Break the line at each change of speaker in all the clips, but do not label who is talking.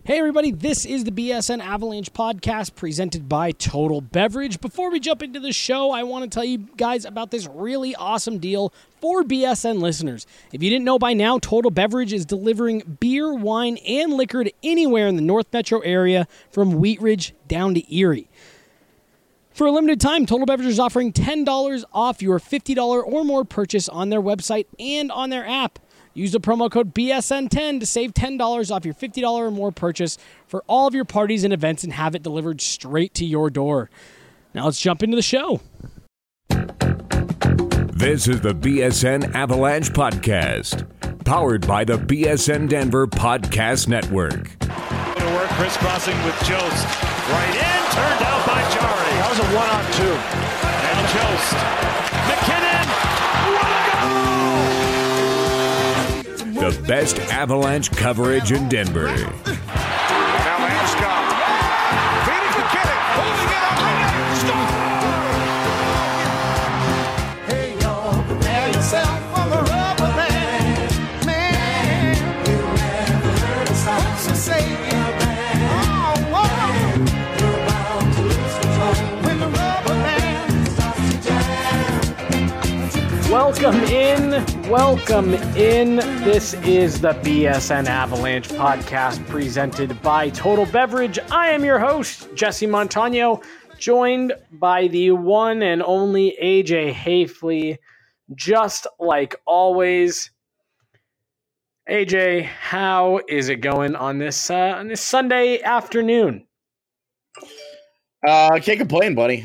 Hey everybody, this is the BSN Avalanche podcast presented by Total Beverage. Before we jump into the show, I want to tell you guys about this really awesome deal for BSN listeners. If you didn't know by now, Total Beverage is delivering beer, wine, and liquor to anywhere in the North Metro area from Wheat Ridge down to Erie. For a limited time, Total Beverage is offering $10 off your $50 or more purchase on their website and on their app. Use the promo code BSN10 to save $10 off your $50 or more purchase for all of your parties and events and have it delivered straight to your door. Now let's jump into the show.
This is the BSN Avalanche Podcast, powered by the BSN Denver Podcast Network.
To work, crisscrossing with Jost. Right in, turned out by Jari.
That was a one-on-two.
And Jost. McKinnon.
The best Avalanche coverage in Denver.
Now Landeskog. Feeding McKinnon. Holding it up. Hey, y'all, prepare yourself for the rubber band. Man, you never heard a song so say it. Oh, whoa. You're bound to lose control when the rubber band starts to jam.
Welcome in. This is the BSN Avalanche podcast presented by Total Beverage. I am your host, Jesse Montano, joined by the one and only AJ Hafley, just like always. AJ, how is it going on this Sunday afternoon?
I can't complain, buddy.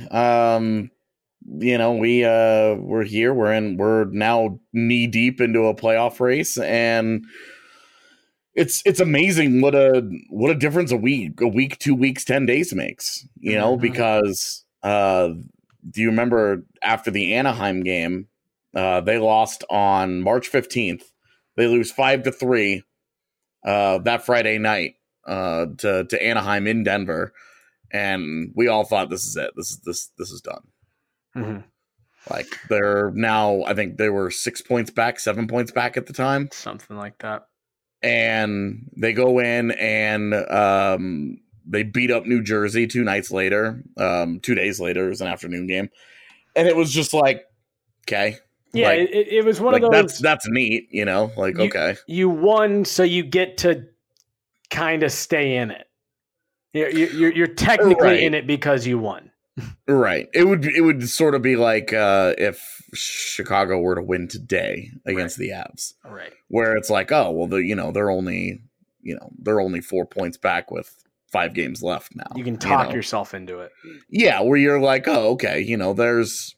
We're here. We're now knee deep into a playoff race, and it's amazing what a difference a week, 2 weeks, 10 days makes. Because do you remember after the Anaheim game, they lost on March 15th. They lose 5-3 that Friday night to Anaheim in Denver, and we all thought this is it. This is done.
Mm-hmm.
Like they're now, I think they were 7 points back at the time.
Something like that.
And they go in and they beat up New Jersey 2 nights later. 2 days later, it was an afternoon game. And it was just like, okay.
Yeah,
like,
it was one of those.
That's neat, okay.
You won, so you get to kind of stay in it. You're technically
Right.
in it because you won.
Right. It would sort of be like if Chicago were to win today against the Avs.
Right.
Where it's like, oh, well, they're only 4 points back with 5 games left now.
You can talk yourself into it.
Yeah, where you're like, oh, okay, there's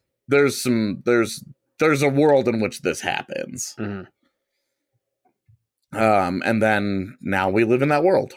a world in which this happens.
Mm-hmm.
And then now we live in that world.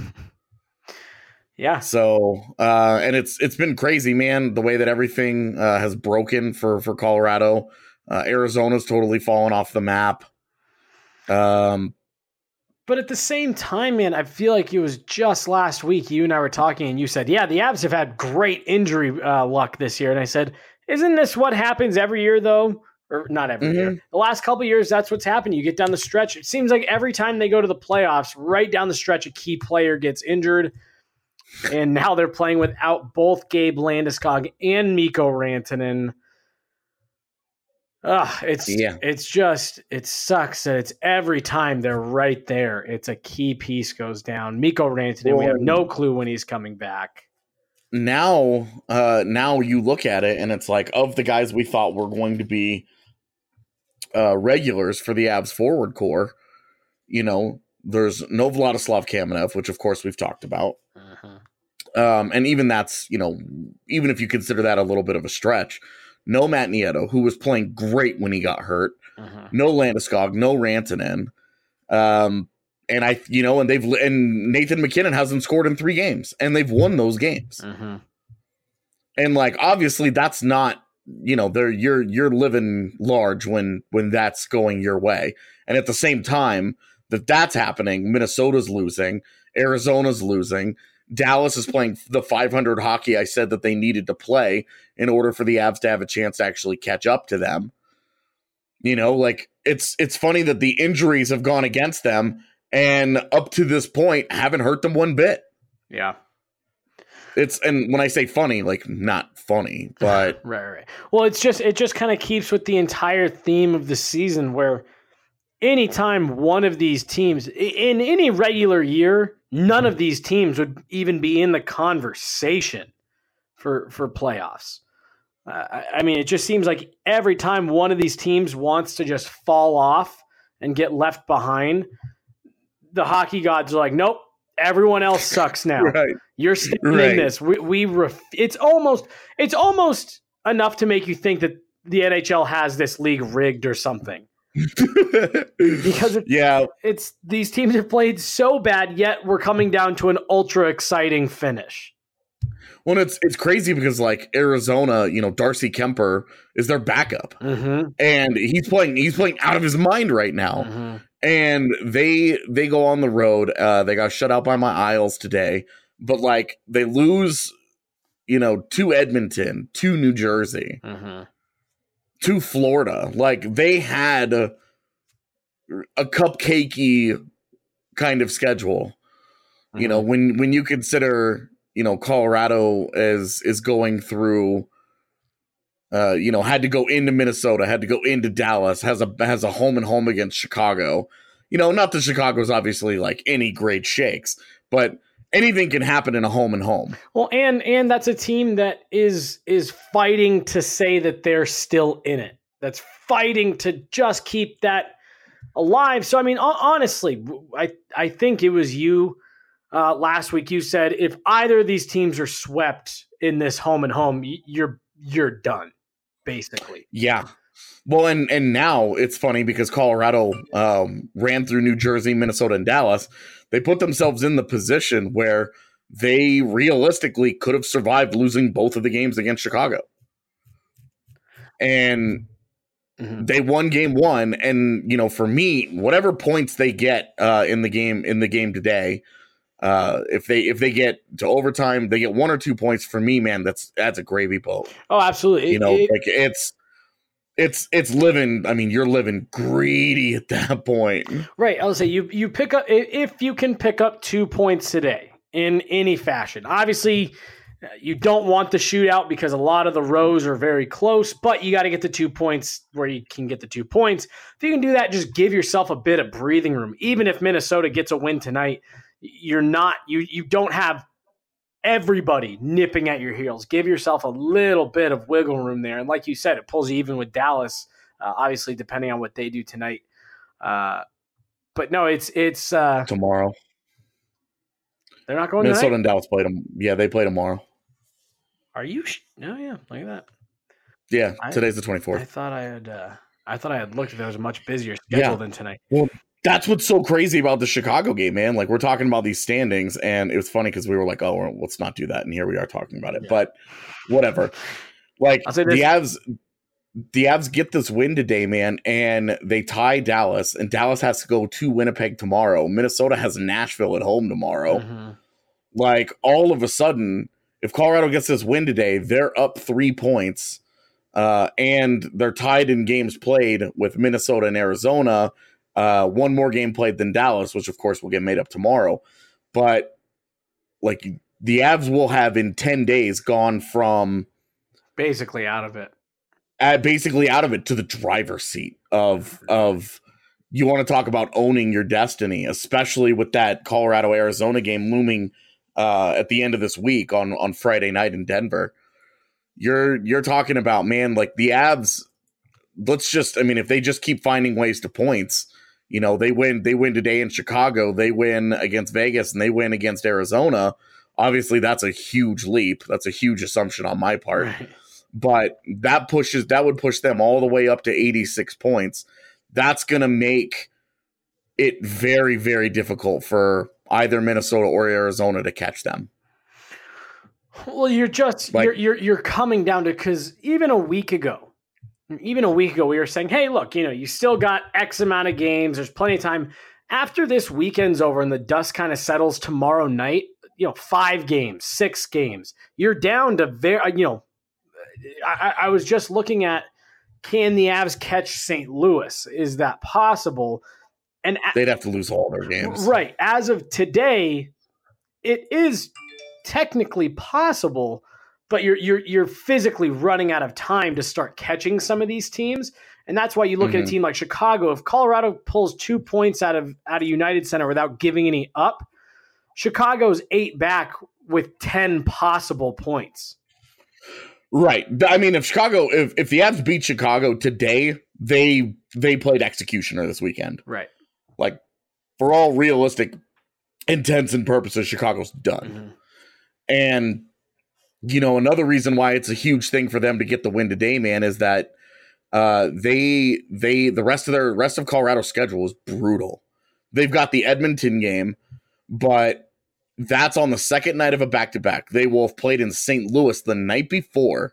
Yeah.
So, and it's been crazy, man, the way that everything has broken for Colorado. Arizona's totally fallen off the map.
But at the same time, man, I feel like it was just last week you and I were talking and you said, yeah, the Avs have had great injury luck this year. And I said, isn't this what happens every year, though? Or not every year. The last couple of years, that's what's happened. You get down the stretch. It seems like every time they go to the playoffs, right down the stretch, a key player gets injured. And now they're playing without both Gabe Landeskog and Mikko Rantanen. It sucks that it's every time they're right there. It's a key piece goes down. Mikko Rantanen, we have no clue when he's coming back.
Now you look at it and it's like, of the guys we thought were going to be regulars for the Avs forward core, there's no Vladislav Kamenev, which of course we've talked about. And even that's, even if you consider that a little bit of a stretch, no Matt Nieto, who was playing great when he got hurt, no Landeskog, no Rantanen. And Nathan McKinnon hasn't scored in 3 games and they've won those games. And like, obviously that's not, you're living large when that's going your way. And at the same time that's happening, Minnesota's losing, Arizona's losing, Dallas is playing the 500 hockey I said that they needed to play in order for the Avs to have a chance to actually catch up to them. It's funny that the injuries have gone against them and up to this point, haven't hurt them one bit.
Yeah.
And when I say funny, like not funny, but
right. Well, it just kind of keeps with the entire theme of the season, where anytime one of these teams in any regular year, none of these teams would even be in the conversation for playoffs. I mean, it just seems like every time one of these teams wants to just fall off and get left behind, the hockey gods are like, nope, everyone else sucks now.
Right.
You're staying in this. It's almost enough to make you think that the NHL has this league rigged or something. Because it's these teams have played so bad, yet we're coming down to an ultra exciting finish.
Well, it's crazy because like Arizona, Darcy Kemper is their backup, and he's playing out of his mind right now. And they go on the road. They got shut out by my Isles today, but like they lose, to Edmonton, to New Jersey, to Florida. Like they had a cupcakey kind of schedule. When you consider. Colorado is going through, had to go into Minnesota, had to go into Dallas, has a home and home against Chicago. Not that Chicago's obviously like any great shakes, but anything can happen in a home and home. Well,
and that's a team that is fighting to say that they're still in it. That's fighting to just keep that alive. So, I mean, honestly, I think it was you. Last week you said if either of these teams are swept in this home and home, you're done, basically.
Yeah. Well, and now it's funny because Colorado ran through New Jersey, Minnesota, and Dallas. They put themselves in the position where they realistically could have survived losing both of the games against Chicago. And they won game one. And, for me, whatever points they get in the game today, if they get to overtime, they get 1 or 2 points. For me, man, that's a gravy boat.
Oh, absolutely.
It's living. I mean, you're living greedy at that point,
right? I would say you pick up if you can pick up 2 points today in any fashion. Obviously, you don't want the shootout because a lot of the rows are very close, but you got to get the 2 points where you can get the 2 points. If you can do that, just give yourself a bit of breathing room. Even if Minnesota gets a win tonight. You don't have everybody nipping at your heels. Give yourself a little bit of wiggle room there. And like you said, it pulls you even with Dallas, obviously, depending on what they do tonight. But no, it's
tomorrow.
They're not going
Minnesota
tonight?
And Dallas play them. Yeah, they play tomorrow.
Are you? Oh, yeah. Look at that.
Yeah, today's the 24th.
I thought I had looked. There was a much busier schedule than tonight.
Well, that's what's so crazy about the Chicago game, man. Like, we're talking about these standings, and it was funny because we were like, oh, let's not do that. And here we are talking about it. Yeah. But whatever. Like, the Avs get this win today, man, and they tie Dallas, and Dallas has to go to Winnipeg tomorrow. Minnesota has Nashville at home tomorrow. Like, all of a sudden, if Colorado gets this win today, they're up 3 points, and they're tied in games played with Minnesota and Arizona. One more game played than Dallas, which of course will get made up tomorrow. But like the Avs will have in 10 days gone from
basically out of it
to the driver's seat of you want to talk about owning your destiny, especially with that Colorado Arizona game looming at the end of this week on Friday night in Denver. You're talking about, man, like the Avs. If they just keep finding ways to points. They win today in Chicago, they win against Vegas, and they win against Arizona. Obviously, that's a huge leap. That's a huge assumption on my part. Right. But that would push them all the way up to 86 points. That's going to make it very, very difficult for either Minnesota or Arizona to catch them.
Well, you're coming down to, because even a week ago, we were saying, hey, look, you still got X amount of games. There's plenty of time. After this weekend's over and the dust kind of settles tomorrow night, 5 games, 6 games, you're down to I was just looking at, can the Avs catch St. Louis? Is that possible? And
they'd have to lose all their games.
Right. As of today, it is technically possible, but you're physically running out of time to start catching some of these teams. And that's why you look at a team like Chicago. If Colorado pulls 2 points out of United Center without giving any up, Chicago's 8 back with 10 possible points.
Right. I mean, if the Avs beat Chicago today, they played executioner this weekend.
Right.
Like, for all realistic intents and purposes, Chicago's done. And, you know, another reason why it's a huge thing for them to get the win today, man, is that the rest of Colorado's schedule is brutal. They've got the Edmonton game, but that's on the second night of a back-to-back. They will have played in St. Louis the night before.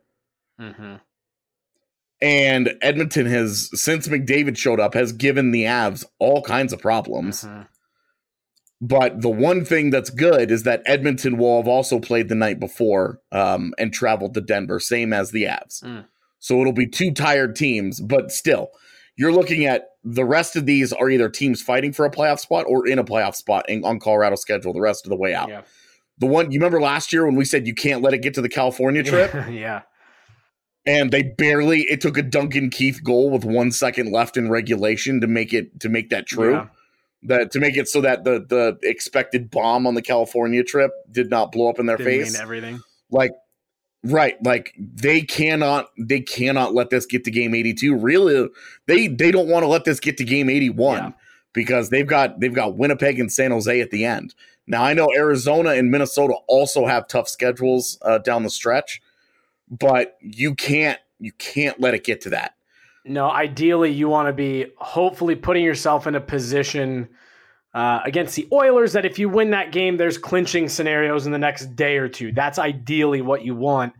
And Edmonton has, since McDavid showed up, has given the Avs all kinds of problems. But the one thing that's good is that Edmonton will have also played the night before and traveled to Denver, same as the Avs. So it'll be 2 tired teams, but still, you're looking at the rest of these are either teams fighting for a playoff spot or in a playoff spot on Colorado's schedule the rest of the way out.
Yeah.
The one, you remember last year when we said you can't let it get to the California trip?
Yeah.
And it took a Duncan Keith goal with 1 second left in regulation to make that true. Yeah. To make it so that the expected bomb on the California trip did not blow up in their face.
Mean everything.
Right. Like they cannot let this get to game 82. Really, they don't want to let this get to game 81 because they've got Winnipeg and San Jose at the end. Now I know Arizona and Minnesota also have tough schedules down the stretch, but you can't let it get to that.
No, ideally you want to be hopefully putting yourself in a position against the Oilers that if you win that game, there's clinching scenarios in the next day or two. That's ideally what you want.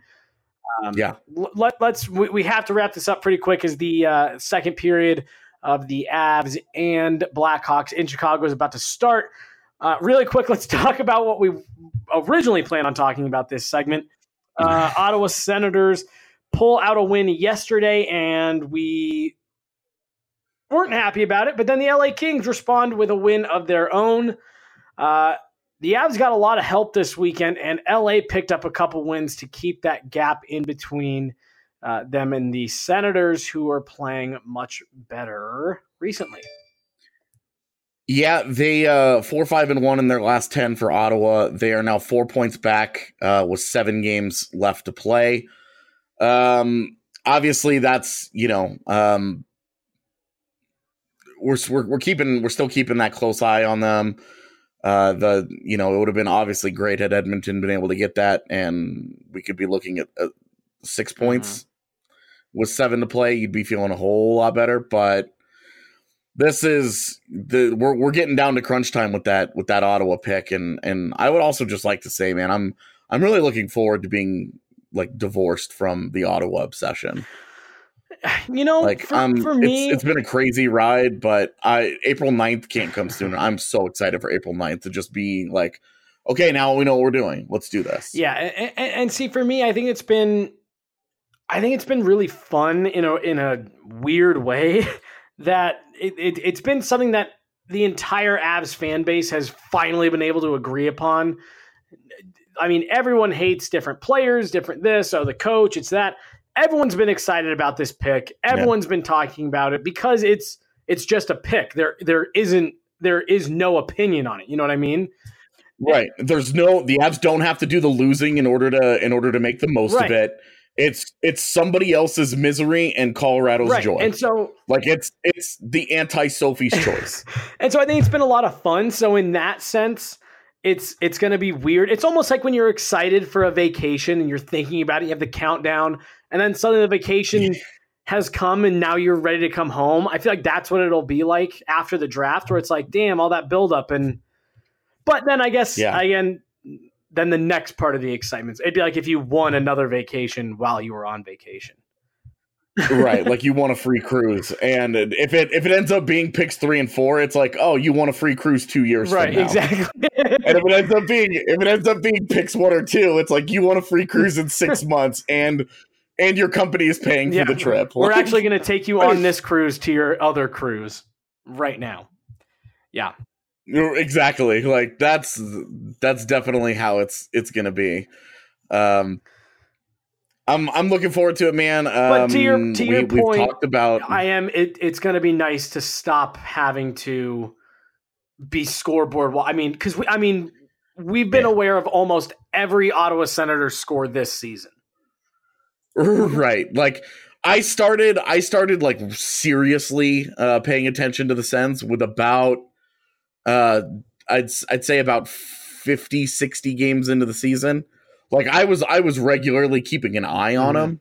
We have to wrap this up pretty quick as the second period of the Avs and Blackhawks in Chicago is about to start. Really quick, let's talk about what we originally planned on talking about this segment. Ottawa Senators pull out a win yesterday, and we weren't happy about it, but then the LA Kings respond with a win of their own. The Avs got a lot of help this weekend, and LA picked up a couple wins to keep that gap in between them and the Senators, who are playing much better recently.
Yeah, they 4-5-1 in their last 10 for Ottawa. They are now 4 points back with 7 games left to play. Obviously, that's we're still keeping that close eye on them. It would have been obviously great had Edmonton been able to get that, and we could be looking at 6 points with 7 to play. You'd be feeling a whole lot better, but this is we're getting down to crunch time with that Ottawa pick, and I would also just like to say, man, I'm really looking forward to being like divorced from the Ottawa obsession. For me, it's been a crazy ride, but April 9th can't come sooner. I'm so excited for April 9th to just be like, okay, now we know what we're doing. Let's do this.
Yeah. And see, for me, I think it's been really fun in a weird way that it's been something that the entire Avs fan base has finally been able to agree upon. I mean, everyone hates different players, different this, the coach, it's that. Everyone's been excited about this pick. Everyone's been talking about it because it's just a pick. There is no opinion on it. You know what I mean?
Right. The Avs don't have to do the losing in order to make the most of it. It's somebody else's misery and Colorado's joy.
And so
it's the anti-Sophie's choice.
And so I think it's been a lot of fun. So in that sense, it's going to be weird. It's almost like when you're excited for a vacation and you're thinking about it, you have the countdown, and then suddenly the vacation has come and now you're ready to come home. I feel like that's what it'll be like after the draft, where it's like, damn, all that buildup. But then I guess, again, then the next part of the excitement, it'd be like if you won another vacation while you were on vacation.
Right, like you want a free cruise, and if it ends up being picks 3 and 4, it's like, oh, you want a free cruise 2 years from now.
Right, exactly.
And if it ends up being picks 1 or 2, it's like you want a free cruise in 6 months, and your company is paying for the trip.
We're actually going to take you on this cruise to your other cruise right now. Yeah.
Exactly. Like that's definitely how it's gonna be. I'm looking forward to it, man.
But to your point,
we've talked about.
It's going to be nice to stop having to be scoreboard. Well, I mean, because we've been aware of almost every Ottawa Senators score this season.
Right. Like I started like seriously paying attention to the Sens with about I'd say about 50, 60 games into the season. Like I was regularly keeping an eye on them.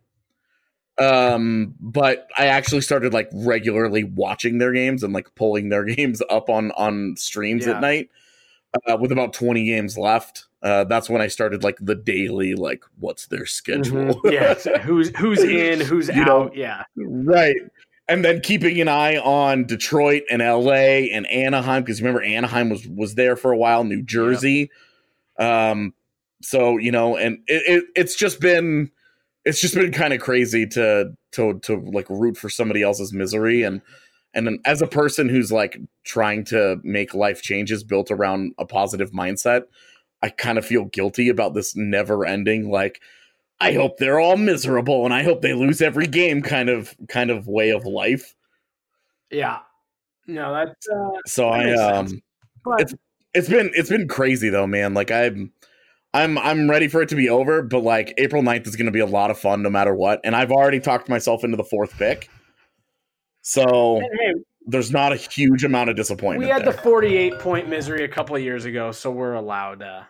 But I actually started like regularly watching their games and like pulling their games up on streams at night. With about 20 games left. That's when I started like the daily, like what's their schedule?
Yeah. Who's in, who's out. Yeah.
Right. And then keeping an eye on Detroit and LA and Anaheim, because remember Anaheim was there for a while, New Jersey. So, and it's just been kind of crazy to like root for somebody else's misery. And then as a person who's like trying to make life changes built around a positive mindset, I kind of feel guilty about this never ending, like, I hope they're all miserable and I hope they lose every game kind of way of life.
Yeah. No, that's
so it's been crazy though, man. Like I'm ready for it to be over, but like April 9th is going to be a lot of fun no matter what. And I've already talked myself into the 4th pick. So there's not a huge amount of disappointment.
We had the 48-point misery a couple of years ago, so we're allowed to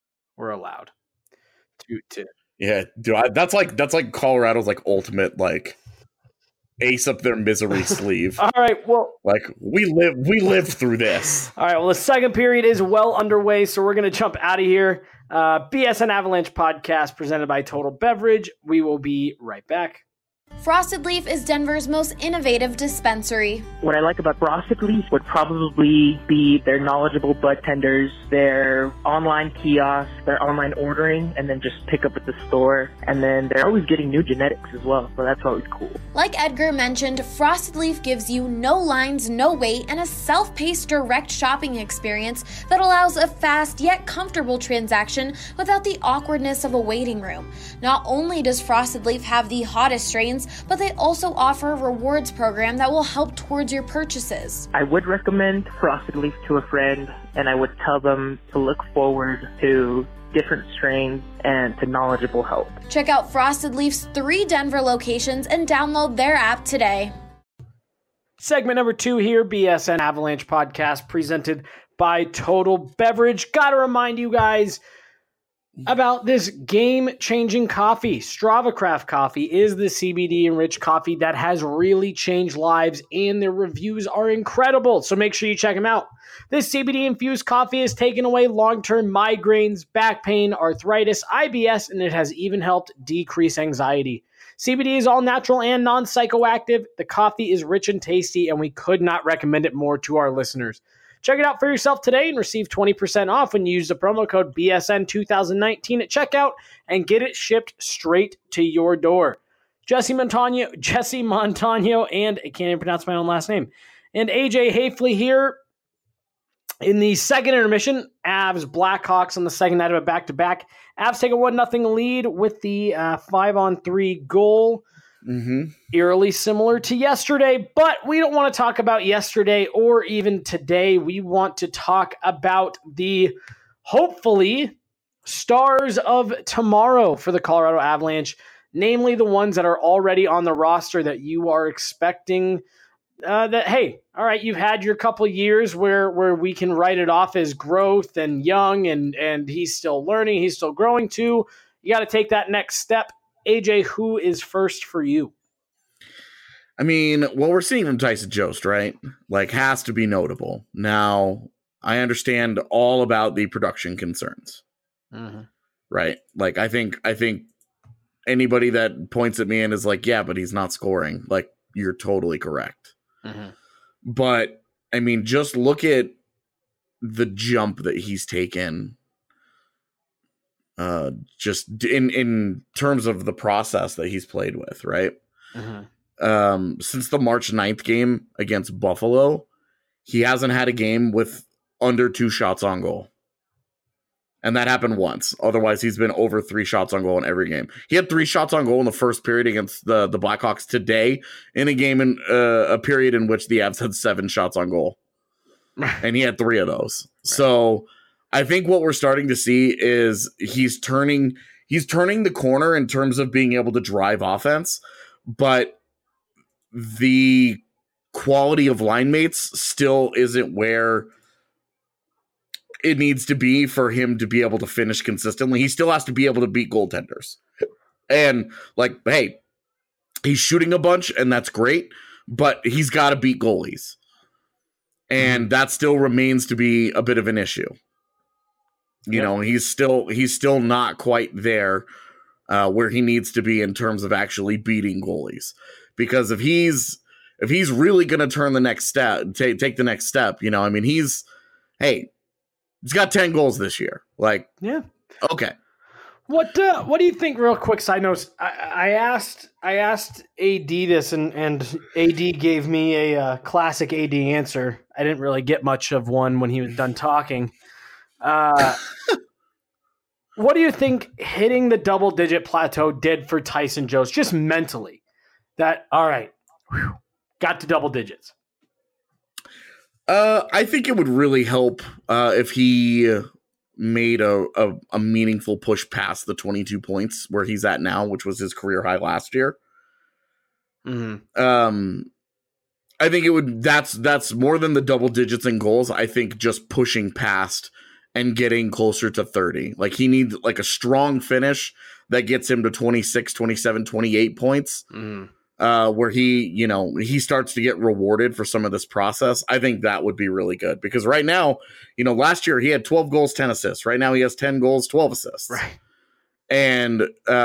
Yeah, dude, that's like Colorado's like ultimate like ace up their misery sleeve.
All right, well,
like we live through this.
All right, well, the second period is well underway, so we're going to jump out of here. BSN Avalanche podcast presented by Total Beverage. We will be right back.
Frosted Leaf is Denver's most innovative dispensary.
What I like about Frosted Leaf would probably be their knowledgeable bud tenders, their online kiosk, their online ordering, and then just pick up at the store. And then they're always getting new genetics as well, so that's always cool.
Like Edgar mentioned, Frosted Leaf gives you no lines, no wait, and a self-paced direct shopping experience that allows a fast yet comfortable transaction without the awkwardness of a waiting room. Not only does Frosted Leaf have the hottest strains, but they also offer a rewards program that will help towards your purchases.
I would recommend Frosted Leaf to a friend, and I would tell them to look forward to different strains and to knowledgeable help.
Check out Frosted Leaf's 3 Denver locations and download their app today.
Segment number 2 here, BSN Avalanche podcast presented by Total Beverage. Gotta remind you guys about this game-changing coffee. Strava Craft Coffee is the CBD-enriched coffee that has really changed lives, and their reviews are incredible, so make sure you check them out. This CBD-infused coffee has taken away long-term migraines, back pain, arthritis, IBS, and it has even helped decrease anxiety. CBD is all natural and non-psychoactive. The coffee is rich and tasty, and we could not recommend it more to our listeners. Check it out for yourself today and receive 20% off when you use the promo code BSN2019 at checkout and get it shipped straight to your door. Jesse Montano, and I can't even pronounce my own last name, and AJ Hafley here in the second intermission. Avs Blackhawks on the second night of a back-to-back. Avs take a 1-0 lead with the 5-on-3 goal. Eerily similar to yesterday, but we don't want to talk about yesterday or even today. We want to talk about the hopefully stars of tomorrow for the Colorado Avalanche, namely the ones that are already on the roster that you are expecting that, hey, all right, you've had your couple years where we can write it off as growth and young and he's still learning, he's still growing too. You got to take that next step. AJ, who is first for you?
I mean, what we're seeing from Tyson Jost, right? Like, has to be notable. Now, I understand all about the production concerns, right? Like, I think anybody that points at me and is like, yeah, but he's not scoring. Like, you're totally correct. But, I mean, just look at the jump that he's taken. Just in terms of the process that he's played with, right? Since the March 9th game against Buffalo, he hasn't had a game with under 2 shots on goal. And that happened once. Otherwise, he's been over 3 shots on goal in every game. He had 3 shots on goal in the first period against the Blackhawks today in a game in a period in which the Avs had 7 shots on goal. And he had 3 of those. Right. So I think what we're starting to see is he's turning the corner in terms of being able to drive offense, but the quality of line mates still isn't where it needs to be for him to be able to finish consistently. He still has to be able to beat goaltenders. And like, hey, he's shooting a bunch and that's great, but he's got to beat goalies. And that still remains to be a bit of an issue. You know, he's still not quite there where he needs to be in terms of actually beating goalies. Because if he's really going to turn the next step, take the next step, you know, I mean, he's got 10 goals this year. Like, yeah. Okay.
What do you think, real quick side notes? I asked AD this and AD gave me a classic AD answer. I didn't really get much of one when he was done talking. What do you think hitting the double-digit plateau did for Tyson Jost, just mentally? That, all right, got to double digits.
I think it would really help if he made a meaningful push past the 22 points where he's at now, which was his career high last year. Mm-hmm. I think it would. That's more than the double digits in goals. I think just pushing past and getting closer to 30. Like he needs like a strong finish that gets him to 26, 27, 28 points. Mm-hmm. Where he starts to get rewarded for some of this process. I think that would be really good because right now, last year he had 12 goals, 10 assists. Right now he has 10 goals, 12 assists. Right. And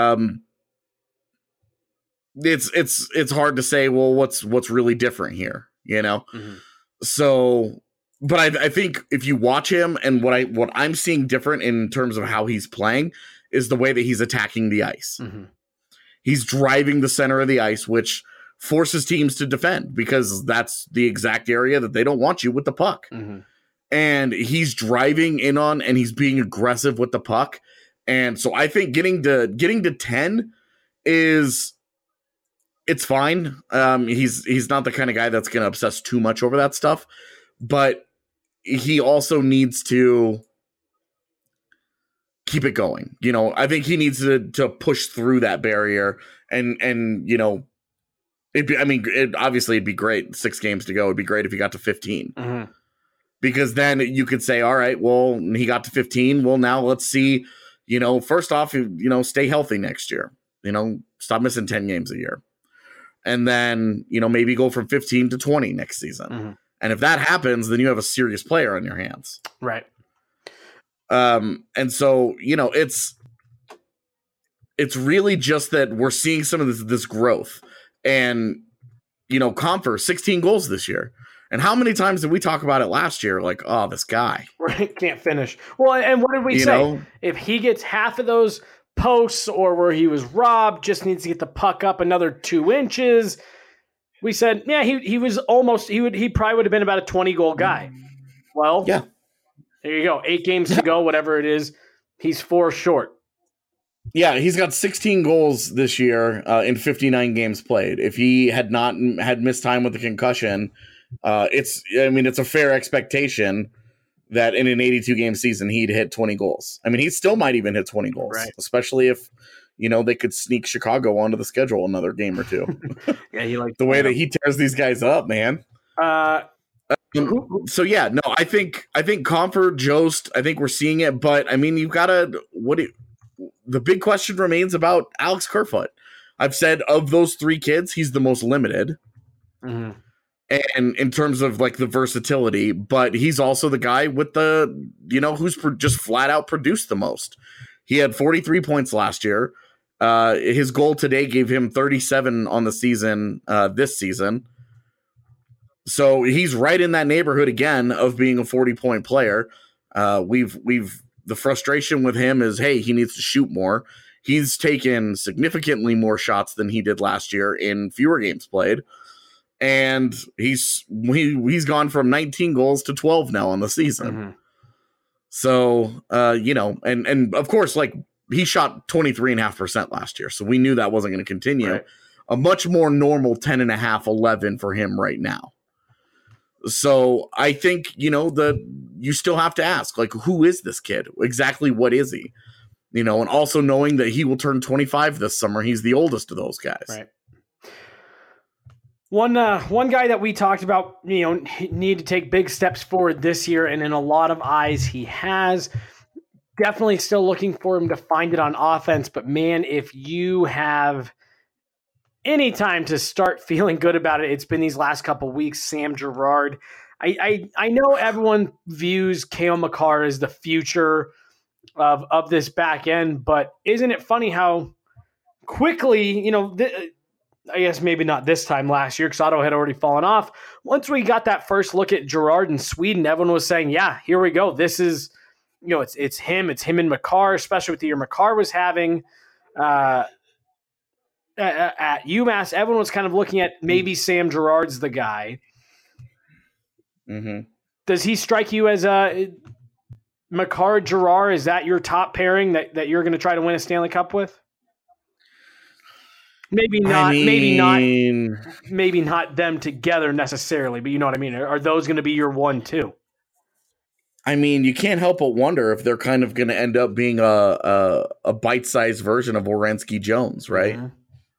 it's hard to say, well, what's really different here, Mm-hmm. So, but I think if you watch him and what I'm seeing different in terms of how he's playing is the way that he's attacking the ice. Mm-hmm. He's driving the center of the ice, which forces teams to defend because that's the exact area that they don't want you with the puck. Mm-hmm. And he's driving in on and he's being aggressive with the puck. And so I think getting to 10 it's fine. He's not the kind of guy that's going to obsess too much over that stuff, but he also needs to keep it going. I think he needs to push through that barrier and obviously it'd be great. 6 games to go. It'd be great if he got to 15 mm-hmm. because then you could say, all right, well, he got to 15. Well, now let's see, first off, stay healthy next year, stop missing 10 games a year. And then, maybe go from 15 to 20 next season. Mm-hmm. And if that happens, then you have a serious player on your hands. Right. And so, it's really just that we're seeing some of this growth and, Compher 16 goals this year. And how many times did we talk about it last year? Like, oh, this guy
can't finish. Well, and what did we say? If he gets half of those posts or where he was robbed, just needs to get the puck up another 2 inches. We said, yeah, he was almost, he probably would have been about a 20 goal guy. Well, yeah. There you go. 8 games to go, whatever it is. He's 4 short.
Yeah, he's got 16 goals this year in 59 games played. If he had not had missed time with the concussion, it's a fair expectation that in an 82-game season he'd hit 20 goals. I mean, he still might even hit 20 goals, right. Especially if they could sneak Chicago onto the schedule another game or 2. Yeah, he likes the way that he tears these guys up, man. So yeah, no, I think Compher, Jost, I think we're seeing it, but I mean, the big question remains about Alex Kerfoot. I've said of those 3 kids, he's the most limited. Mm-hmm. And in terms of like the versatility, but he's also the guy with the, who's just flat out produced the most. He had 43 points last year. His goal today gave him 37 on the season, this season. So he's right in that neighborhood again of being a 40-point player. The frustration with him is, hey, he needs to shoot more. He's taken significantly more shots than he did last year in fewer games played. and he's gone from 19 goals to 12 now on the season.
Mm-hmm.
So, and of course, like, he shot 23.5% last year. So we knew that wasn't going to continue.
Right.
A much more normal 10.5, 11 for him right now. So I think, you still have to ask, like, who is this kid? Exactly what is he? And also knowing that he will turn 25 this summer. He's the oldest of those guys.
Right. One guy that we talked about, need to take big steps forward this year, and in a lot of eyes he has. Definitely still looking for him to find it on offense, but man, if you have any time to start feeling good about it, it's been these last couple of weeks. Sam Girard. I know everyone views Cale Makar as the future of this back end, but isn't it funny how quickly, I guess maybe not this time last year because Otto had already fallen off. Once we got that first look at Girard in Sweden, everyone was saying, yeah, here we go. This is, it's him and Makar, especially with the year Makar was having at UMass. Everyone was kind of looking at maybe Sam Girard's the guy.
Mm-hmm.
Does he strike you as a Makar Girard? Is that your top pairing that you're going to try to win a Stanley Cup with? Maybe not. Maybe not them together necessarily, but you know what I mean. Are those going to be your 1-2?
I mean, you can't help but wonder if they're kind of going to end up being a bite-sized version of Werenski Jones, right?
Mm-hmm.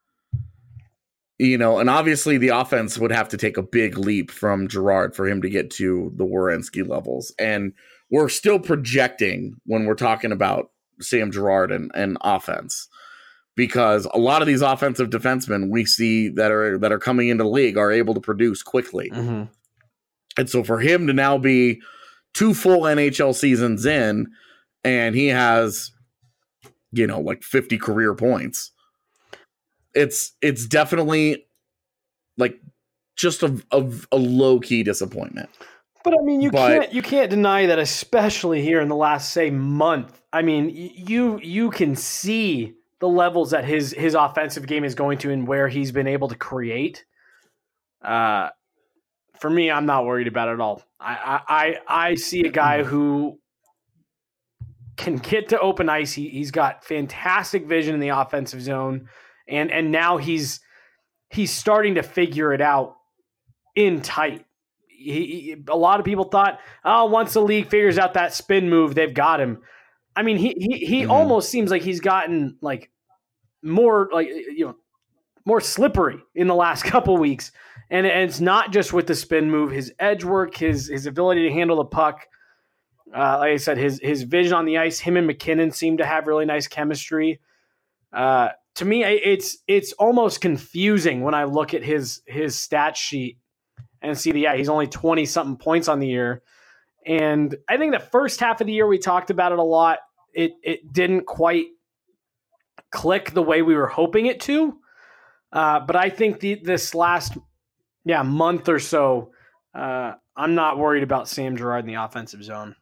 And obviously the offense would have to take a big leap from Girard for him to get to the Werenski levels. And we're still projecting when we're talking about Sam Girard and offense, because a lot of these offensive defensemen we see that are coming into the league are able to produce quickly.
Mm-hmm.
And so for him to now be 2 full NHL seasons in, and he has, like 50 career points, it's definitely like just a low key disappointment.
But I mean, you can't deny that, especially here in the last, say, month. I mean, you can see the levels that his offensive game is going to and where he's been able to create. For me, I'm not worried about it at all. I see a guy who can get to open ice. He's got fantastic vision in the offensive zone, and now he's starting to figure it out in tight. A lot of people thought, once the league figures out that spin move, they've got him. I mean, he almost seems like he's gotten like more more slippery in the last couple weeks. And it's not just with the spin move, his edge work, his ability to handle the puck. Like I said, his vision on the ice, him and McKinnon seem to have really nice chemistry. To me, it's almost confusing when I look at his stat sheet and see he's only 20-something points on the year. And I think the first half of the year we talked about it a lot. It didn't quite click the way we were hoping it to. But I think this last month or so, I'm not worried about Sam Girard in the offensive zone.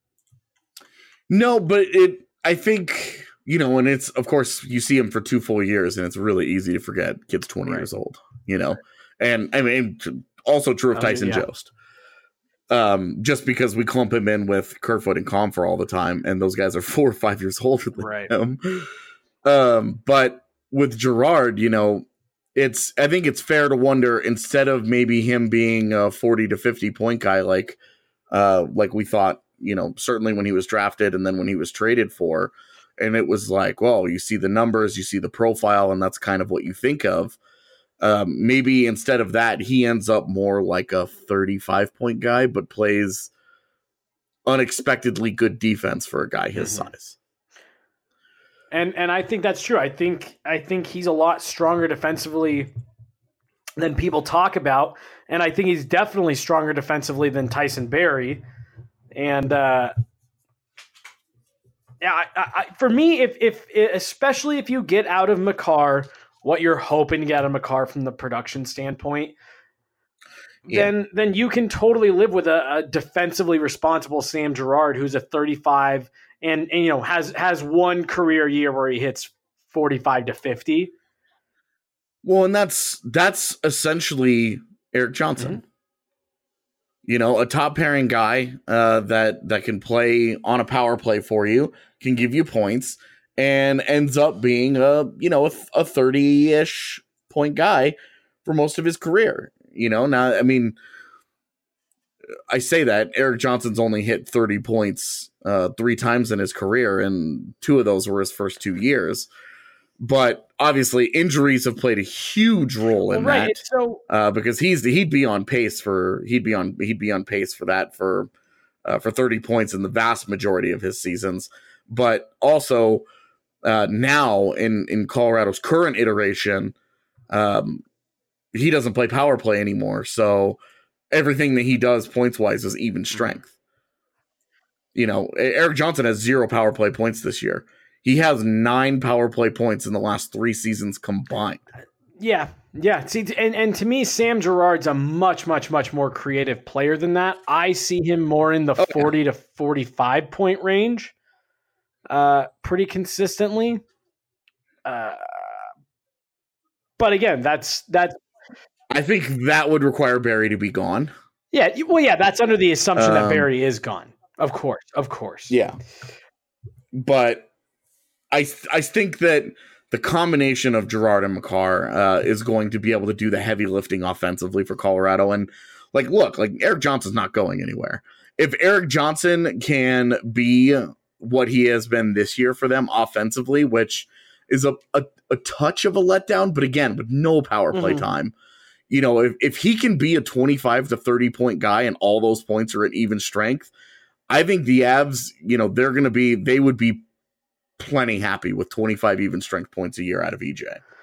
No, but I think, and it's, of course, you see him for 2 full years, and it's really easy to forget kid's 20 years old, and I mean, also true of Tyson Jost. Just because we clump him in with Kerfoot and Comfer all the time, and those guys are 4 or 5 years older than him. But with Girard, I think it's fair to wonder, instead of maybe him being a 40 to 50 point guy, like we thought, certainly when he was drafted and then when he was traded for, and it was like, well, you see the numbers, you see the profile, and that's kind of what you think of. Maybe instead of that, he ends up more like a 35 point guy, but plays unexpectedly good defense for a guy his size.
And I think that's true. I think he's a lot stronger defensively than people talk about, and I think he's definitely stronger defensively than Tyson Barrie. And for me, if especially if you get out of Makar what you're hoping to get out of Makar from the production standpoint, then you can totally live with a defensively responsible Sam Girard, who's a 35 and has one career year where he hits 45 to 50.
Well, and that's essentially Erik Johnson. A top pairing guy that can play on a power play for you, can give you points, and ends up being a 30-ish point guy for most of his career. Now, I mean, I say that Erik Johnson's only hit 30 points 3 times in his career, and 2 of those were his first 2 years. But obviously, injuries have played a huge role in that. So, because he'd be on pace for that for 30 points in the vast majority of his seasons. But also now in Colorado's current iteration, he doesn't play power play anymore. So everything that he does points wise is even strength. Erik Johnson has 0 power play points this year. He has 9 power play points in the last 3 seasons combined.
Yeah. See, and to me, Sam Girard's a much, much, much more creative player than that. I see him more in the 40 to 45 point range, pretty consistently. But again, that's.
I think that would require Barry to be gone.
Yeah. Well, yeah, that's under the assumption that Barry is gone. Of course.
Yeah. But I think that the combination of Girard and Makar is going to be able to do the heavy lifting offensively for Colorado. And look, Erik Johnson's not going anywhere. If Erik Johnson can be what he has been this year for them offensively, which is a touch of a letdown, but again, with no power play time, if he can be a 25 to 30 point guy and all those points are at even strength, I think the Avs, they would be plenty happy with 25 even strength points a year out of EJ.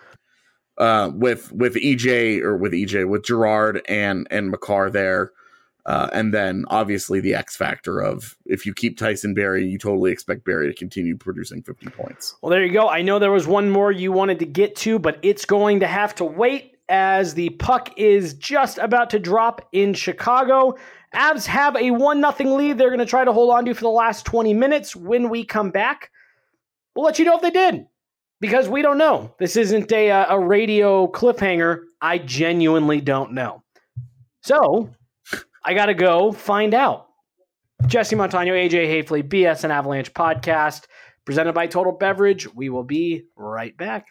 With Girard and Makar there. And then obviously the X factor of if you keep Tyson Barrie, you totally expect Barrie to continue producing 50 points.
Well, there you go. I know there was one more you wanted to get to, but it's going to have to wait as the puck is just about to drop in Chicago. Avs have a 1-0 lead. They're going to try to hold on to for the last 20 minutes. When we come back, we'll let you know if they did, because we don't know. This isn't a radio cliffhanger. I genuinely don't know. So I got to go find out. Jesse Montano, AJ Hafley, BSN Avalanche podcast, presented by Total Beverage. We will be right back.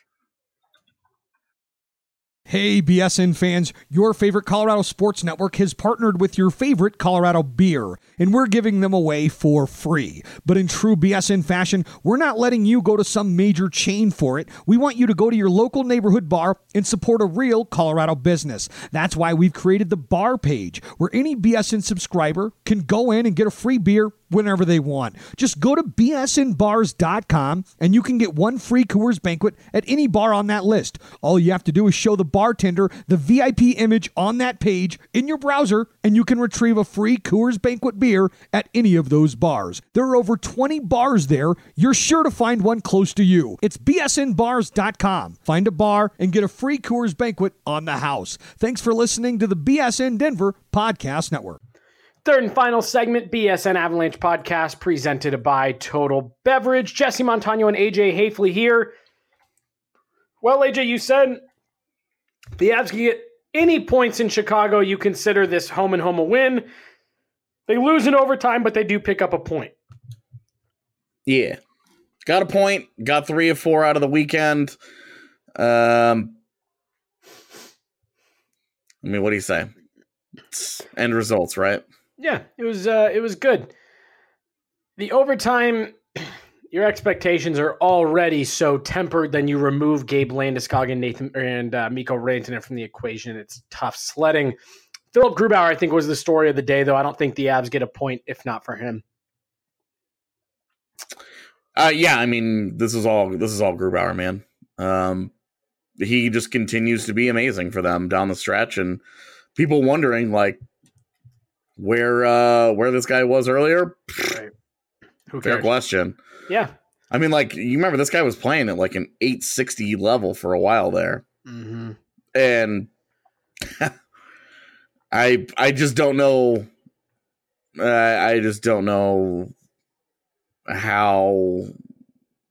Hey, BSN fans, your favorite Colorado Sports Network has partnered with your favorite Colorado beer, and we're giving them away for free. But in true BSN fashion, we're not letting you go to some major chain for it. We want you to go to your local neighborhood bar and support a real Colorado business. That's why we've created the bar page, where any BSN subscriber can go in and get a free beer whenever they want. Just go to bsnbars.com and you can get 1 free Coors Banquet at any bar on that list. All you have to do is show the bartender the VIP image on that page in your browser, and you can retrieve a free Coors Banquet beer at any of those bars. There are over 20 bars there. You're sure to find one close to you. It's bsnbars.com. Find a bar and get a free Coors Banquet on the house. Thanks for listening to the BSN Denver Podcast Network.
Third and final segment, BSN Avalanche podcast, presented by Total Beverage. Jesse Montano and AJ Hafley here. Well, AJ, you said the Avs can get any points in Chicago. You consider this home and home a win. They lose in overtime, but they do pick up a point.
Yeah. Got a point. Got 3 of 4 out of the weekend. I mean, what do you say? It's end results, right?
Yeah, it was good. The overtime, your expectations are already so tempered. Then you remove Gabe Landeskog and Mikko Rantanen from the equation. It's tough sledding. Philip Grubauer, I think, was the story of the day, though. I don't think the Avs get a point if not for him.
Yeah, I mean, this is all Grubauer, man. He just continues to be amazing for them down the stretch, and people wondering where this guy was earlier.
Right. Who cares?
Fair question.
Yeah.
I mean, you remember this guy was playing at an 860 level for a while there.
Mm-hmm.
And I just don't know. I just don't know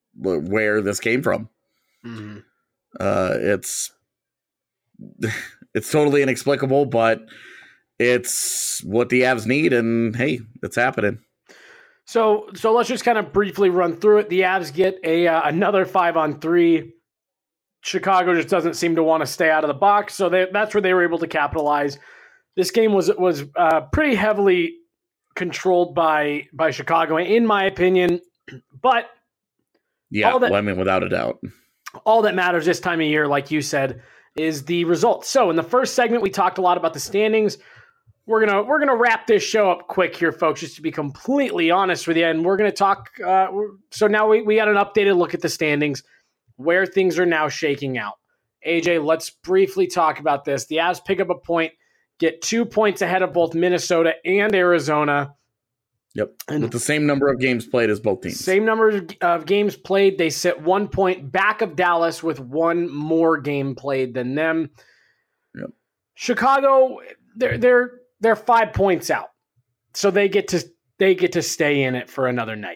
where this came from.
Mm-hmm.
It's It's totally inexplicable, but it's what the Avs need, and hey, it's happening.
So let's just kind of briefly run through it. The Avs get another 5-on-3. Chicago just doesn't seem to want to stay out of the box, so that's where they were able to capitalize. This game was pretty heavily controlled by Chicago, in my opinion. But
yeah, without a doubt,
all that matters this time of year, like you said, is the results. So in the first segment, we talked a lot about the standings. We're gonna wrap this show up quick here, folks, just to be completely honest with you. And we're gonna talk. So now we got an updated look at the standings, where things are now shaking out. AJ, let's briefly talk about this. The Avs pick up a point, get 2 points ahead of both Minnesota and Arizona.
Yep, and with the same number of games played as both teams.
Same number of games played. They sit 1 point back of Dallas with one more game played than them.
Yep.
Chicago, they're 5 points out, so they get to stay in it for another night.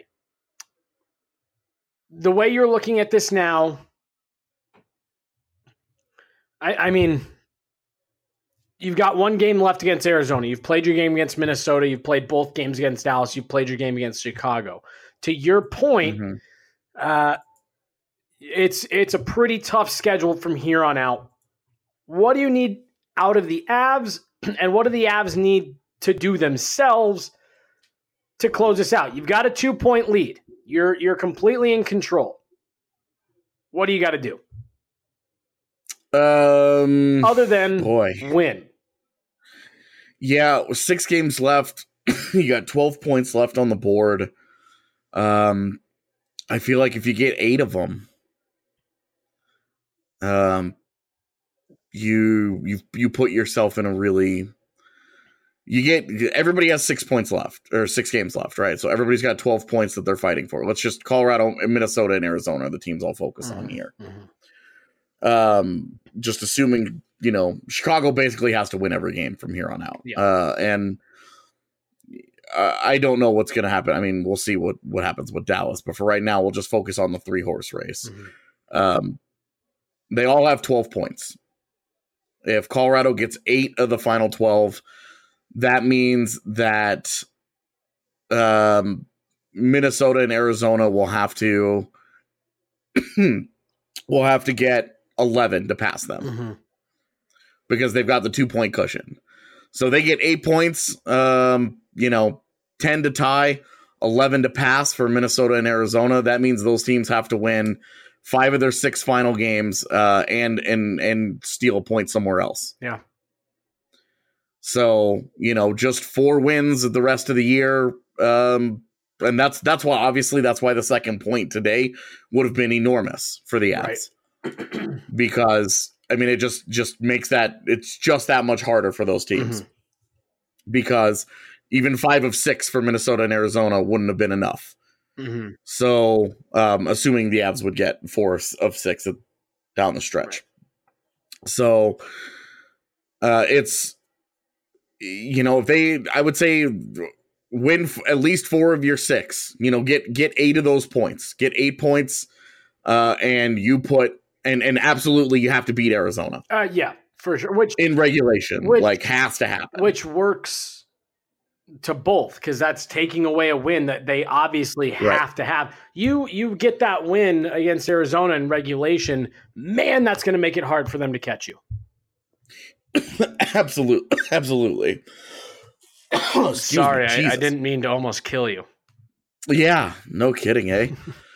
The way you're looking at this now, I mean, you've got one game left against Arizona. You've played your game against Minnesota. You've played both games against Dallas. You've played your game against Chicago. To your point, it's a pretty tough schedule from here on out. What do you need out of the Avs, and what do the Avs need to do themselves to close this out? You've got a 2-point lead. You're completely in control. What do you got to do? Other than win.
Yeah, 6 games left. You got 12 points left on the board. I feel like if you get 8 of them, you put yourself in a really. Everybody has 6 points left, or 6 games left, right? So everybody's got 12 points that they're fighting for. Let's just Colorado, Minnesota, and Arizona are the teams I'll focus on here. Just assuming, Chicago basically has to win every game from here on out.
Yeah.
And I don't know what's going to happen. I mean, we'll see what happens with Dallas, but for right now, we'll just focus on the 3-horse race. They all have 12 points. If Colorado gets 8 of the final 12, that means that Minnesota and Arizona will have to get 11 to pass them because they've got the 2-point cushion. So they get 8 points, 10 to tie, 11 to pass for Minnesota and Arizona. That means those teams have to win 5 of their 6 final games and steal a point somewhere else.
Yeah.
So, just 4 wins the rest of the year. And that's why the second point today would have been enormous for the Avs. Right. Because, I mean, it just makes it's just that much harder for those teams. Because even 5 of 6 for Minnesota and Arizona wouldn't have been enough. So, assuming the Avs would get 4 of 6 down the stretch. Right. So, it's, if I would say win at least 4 of your 6, get 8 of those points, get 8 points, and you put, and absolutely you have to beat Arizona.
Yeah, for sure. Which
in regulation, has to happen.
Which works to both, because that's taking away a win that they obviously have to have. You get that win against Arizona in regulation, man, that's going to make it hard for them to catch you.
Absolutely.
Sorry, I didn't mean to almost kill you.
Yeah, no kidding, eh?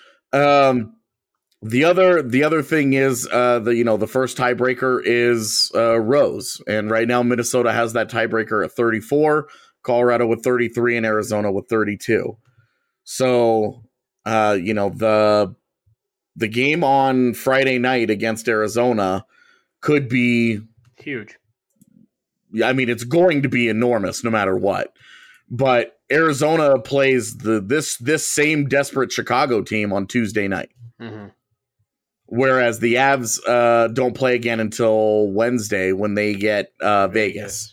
The other thing is the first tiebreaker is Rose, and right now Minnesota has that tiebreaker at 34, Colorado with 33, and Arizona with 32. So the game on Friday night against Arizona could be
huge.
I mean, it's going to be enormous no matter what. But Arizona plays this same desperate Chicago team on Tuesday night. Whereas the Avs don't play again until Wednesday when they get Vegas.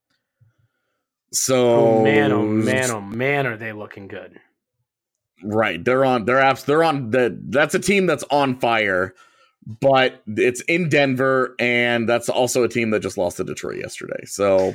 So
oh man, are they looking good?
Right. That's a team that's on fire, but it's in Denver, and that's also a team that just lost to Detroit yesterday. So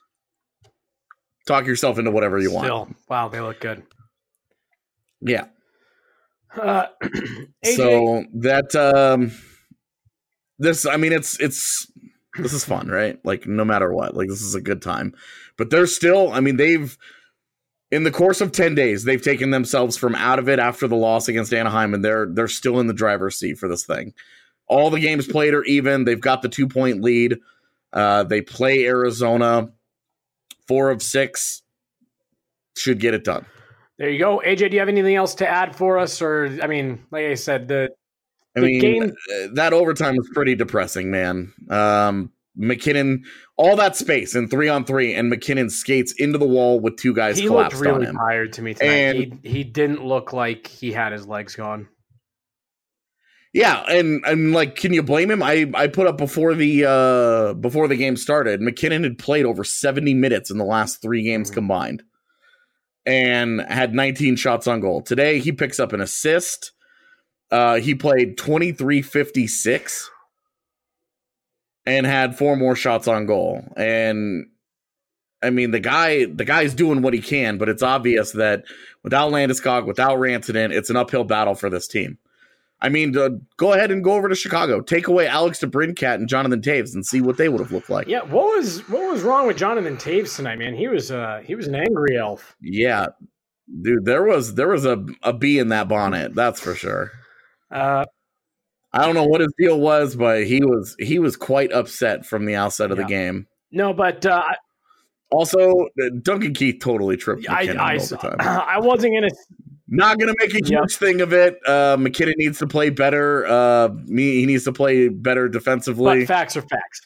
talk yourself into whatever you want.
Wow, they look good.
Yeah.
AJ,
so that this is fun, right? Like, no matter what, like, this is a good time. But they're still, they've, in the course of 10 days, they've taken themselves from out of it after the loss against Anaheim, and they're still in the driver's seat for this thing. All the games played are even. They've got the 2-point lead. They play Arizona. 4 of 6 should get it done.
There you go. AJ, do you have anything else to add for us? Or, like I said, the game...
that overtime was pretty depressing, man. McKinnon, all that space in 3-on-3, and McKinnon skates into the wall with 2 guys collapsed on him.
He looked really tired to me tonight. And he didn't look like he had his legs gone.
Yeah, and like, can you blame him? I put up before the game started, McKinnon had played over 70 minutes in the last 3 games combined, and had 19 shots on goal. Today, he picks up an assist. He played 23-56 and had 4 more shots on goal. And the guy's doing what he can, but it's obvious that without Landeskog, without Rantanen, it's an uphill battle for this team. Go ahead and go over to Chicago, take away Alex DeBrincat and Jonathan Toews, and see what they would have looked like.
Yeah, what was wrong with Jonathan Toews tonight, man? He was an angry elf.
Yeah, dude, there was a bee in that bonnet, that's for sure. I don't know what his deal was, but he was quite upset from the outset of the game.
No, but
also Duncan Keith totally tripped McKinnon in overtime.
I wasn't gonna.
Not going to make a huge thing of it. McKinnon needs to play better. He needs to play better defensively.
But facts are facts.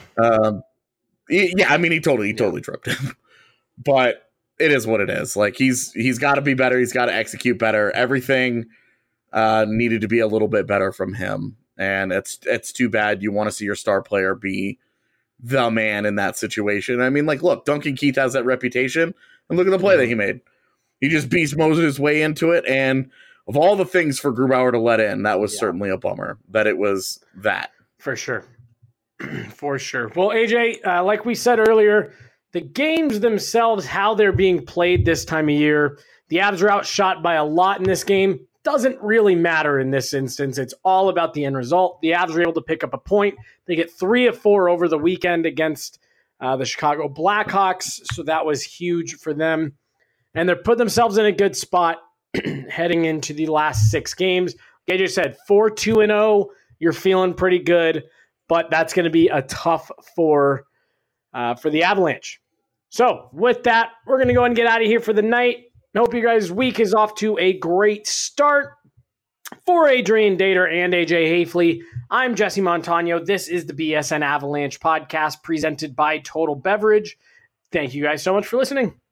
He totally tripped him. But it is what it is. Like, he's got to be better. He's got to execute better. Everything needed to be a little bit better from him. And it's too bad. You want to see your star player be the man in that situation. Look, Duncan Keith has that reputation. And look at the play that he made. He just beast Moses his way into it, and of all the things for Grubauer to let in, that was certainly a bummer that it was that.
For sure. For sure. Well, AJ, like we said earlier, the games themselves, how they're being played this time of year, the Avs are outshot by a lot in this game. Doesn't really matter in this instance. It's all about the end result. The Avs were able to pick up a point. They get 3 of 4 over the weekend against the Chicago Blackhawks, so that was huge for them. And they're put themselves in a good spot heading into the last 6 games. Like AJ said, 4-2-0. You're feeling pretty good, but that's going to be a tough for the Avalanche. So with that, we're going to go and get out of here for the night. I hope you guys' week is off to a great start. For Adrian Dater and AJ Hafley, I'm Jesse Montano. This is the BSN Avalanche podcast presented by Total Beverage. Thank you guys so much for listening.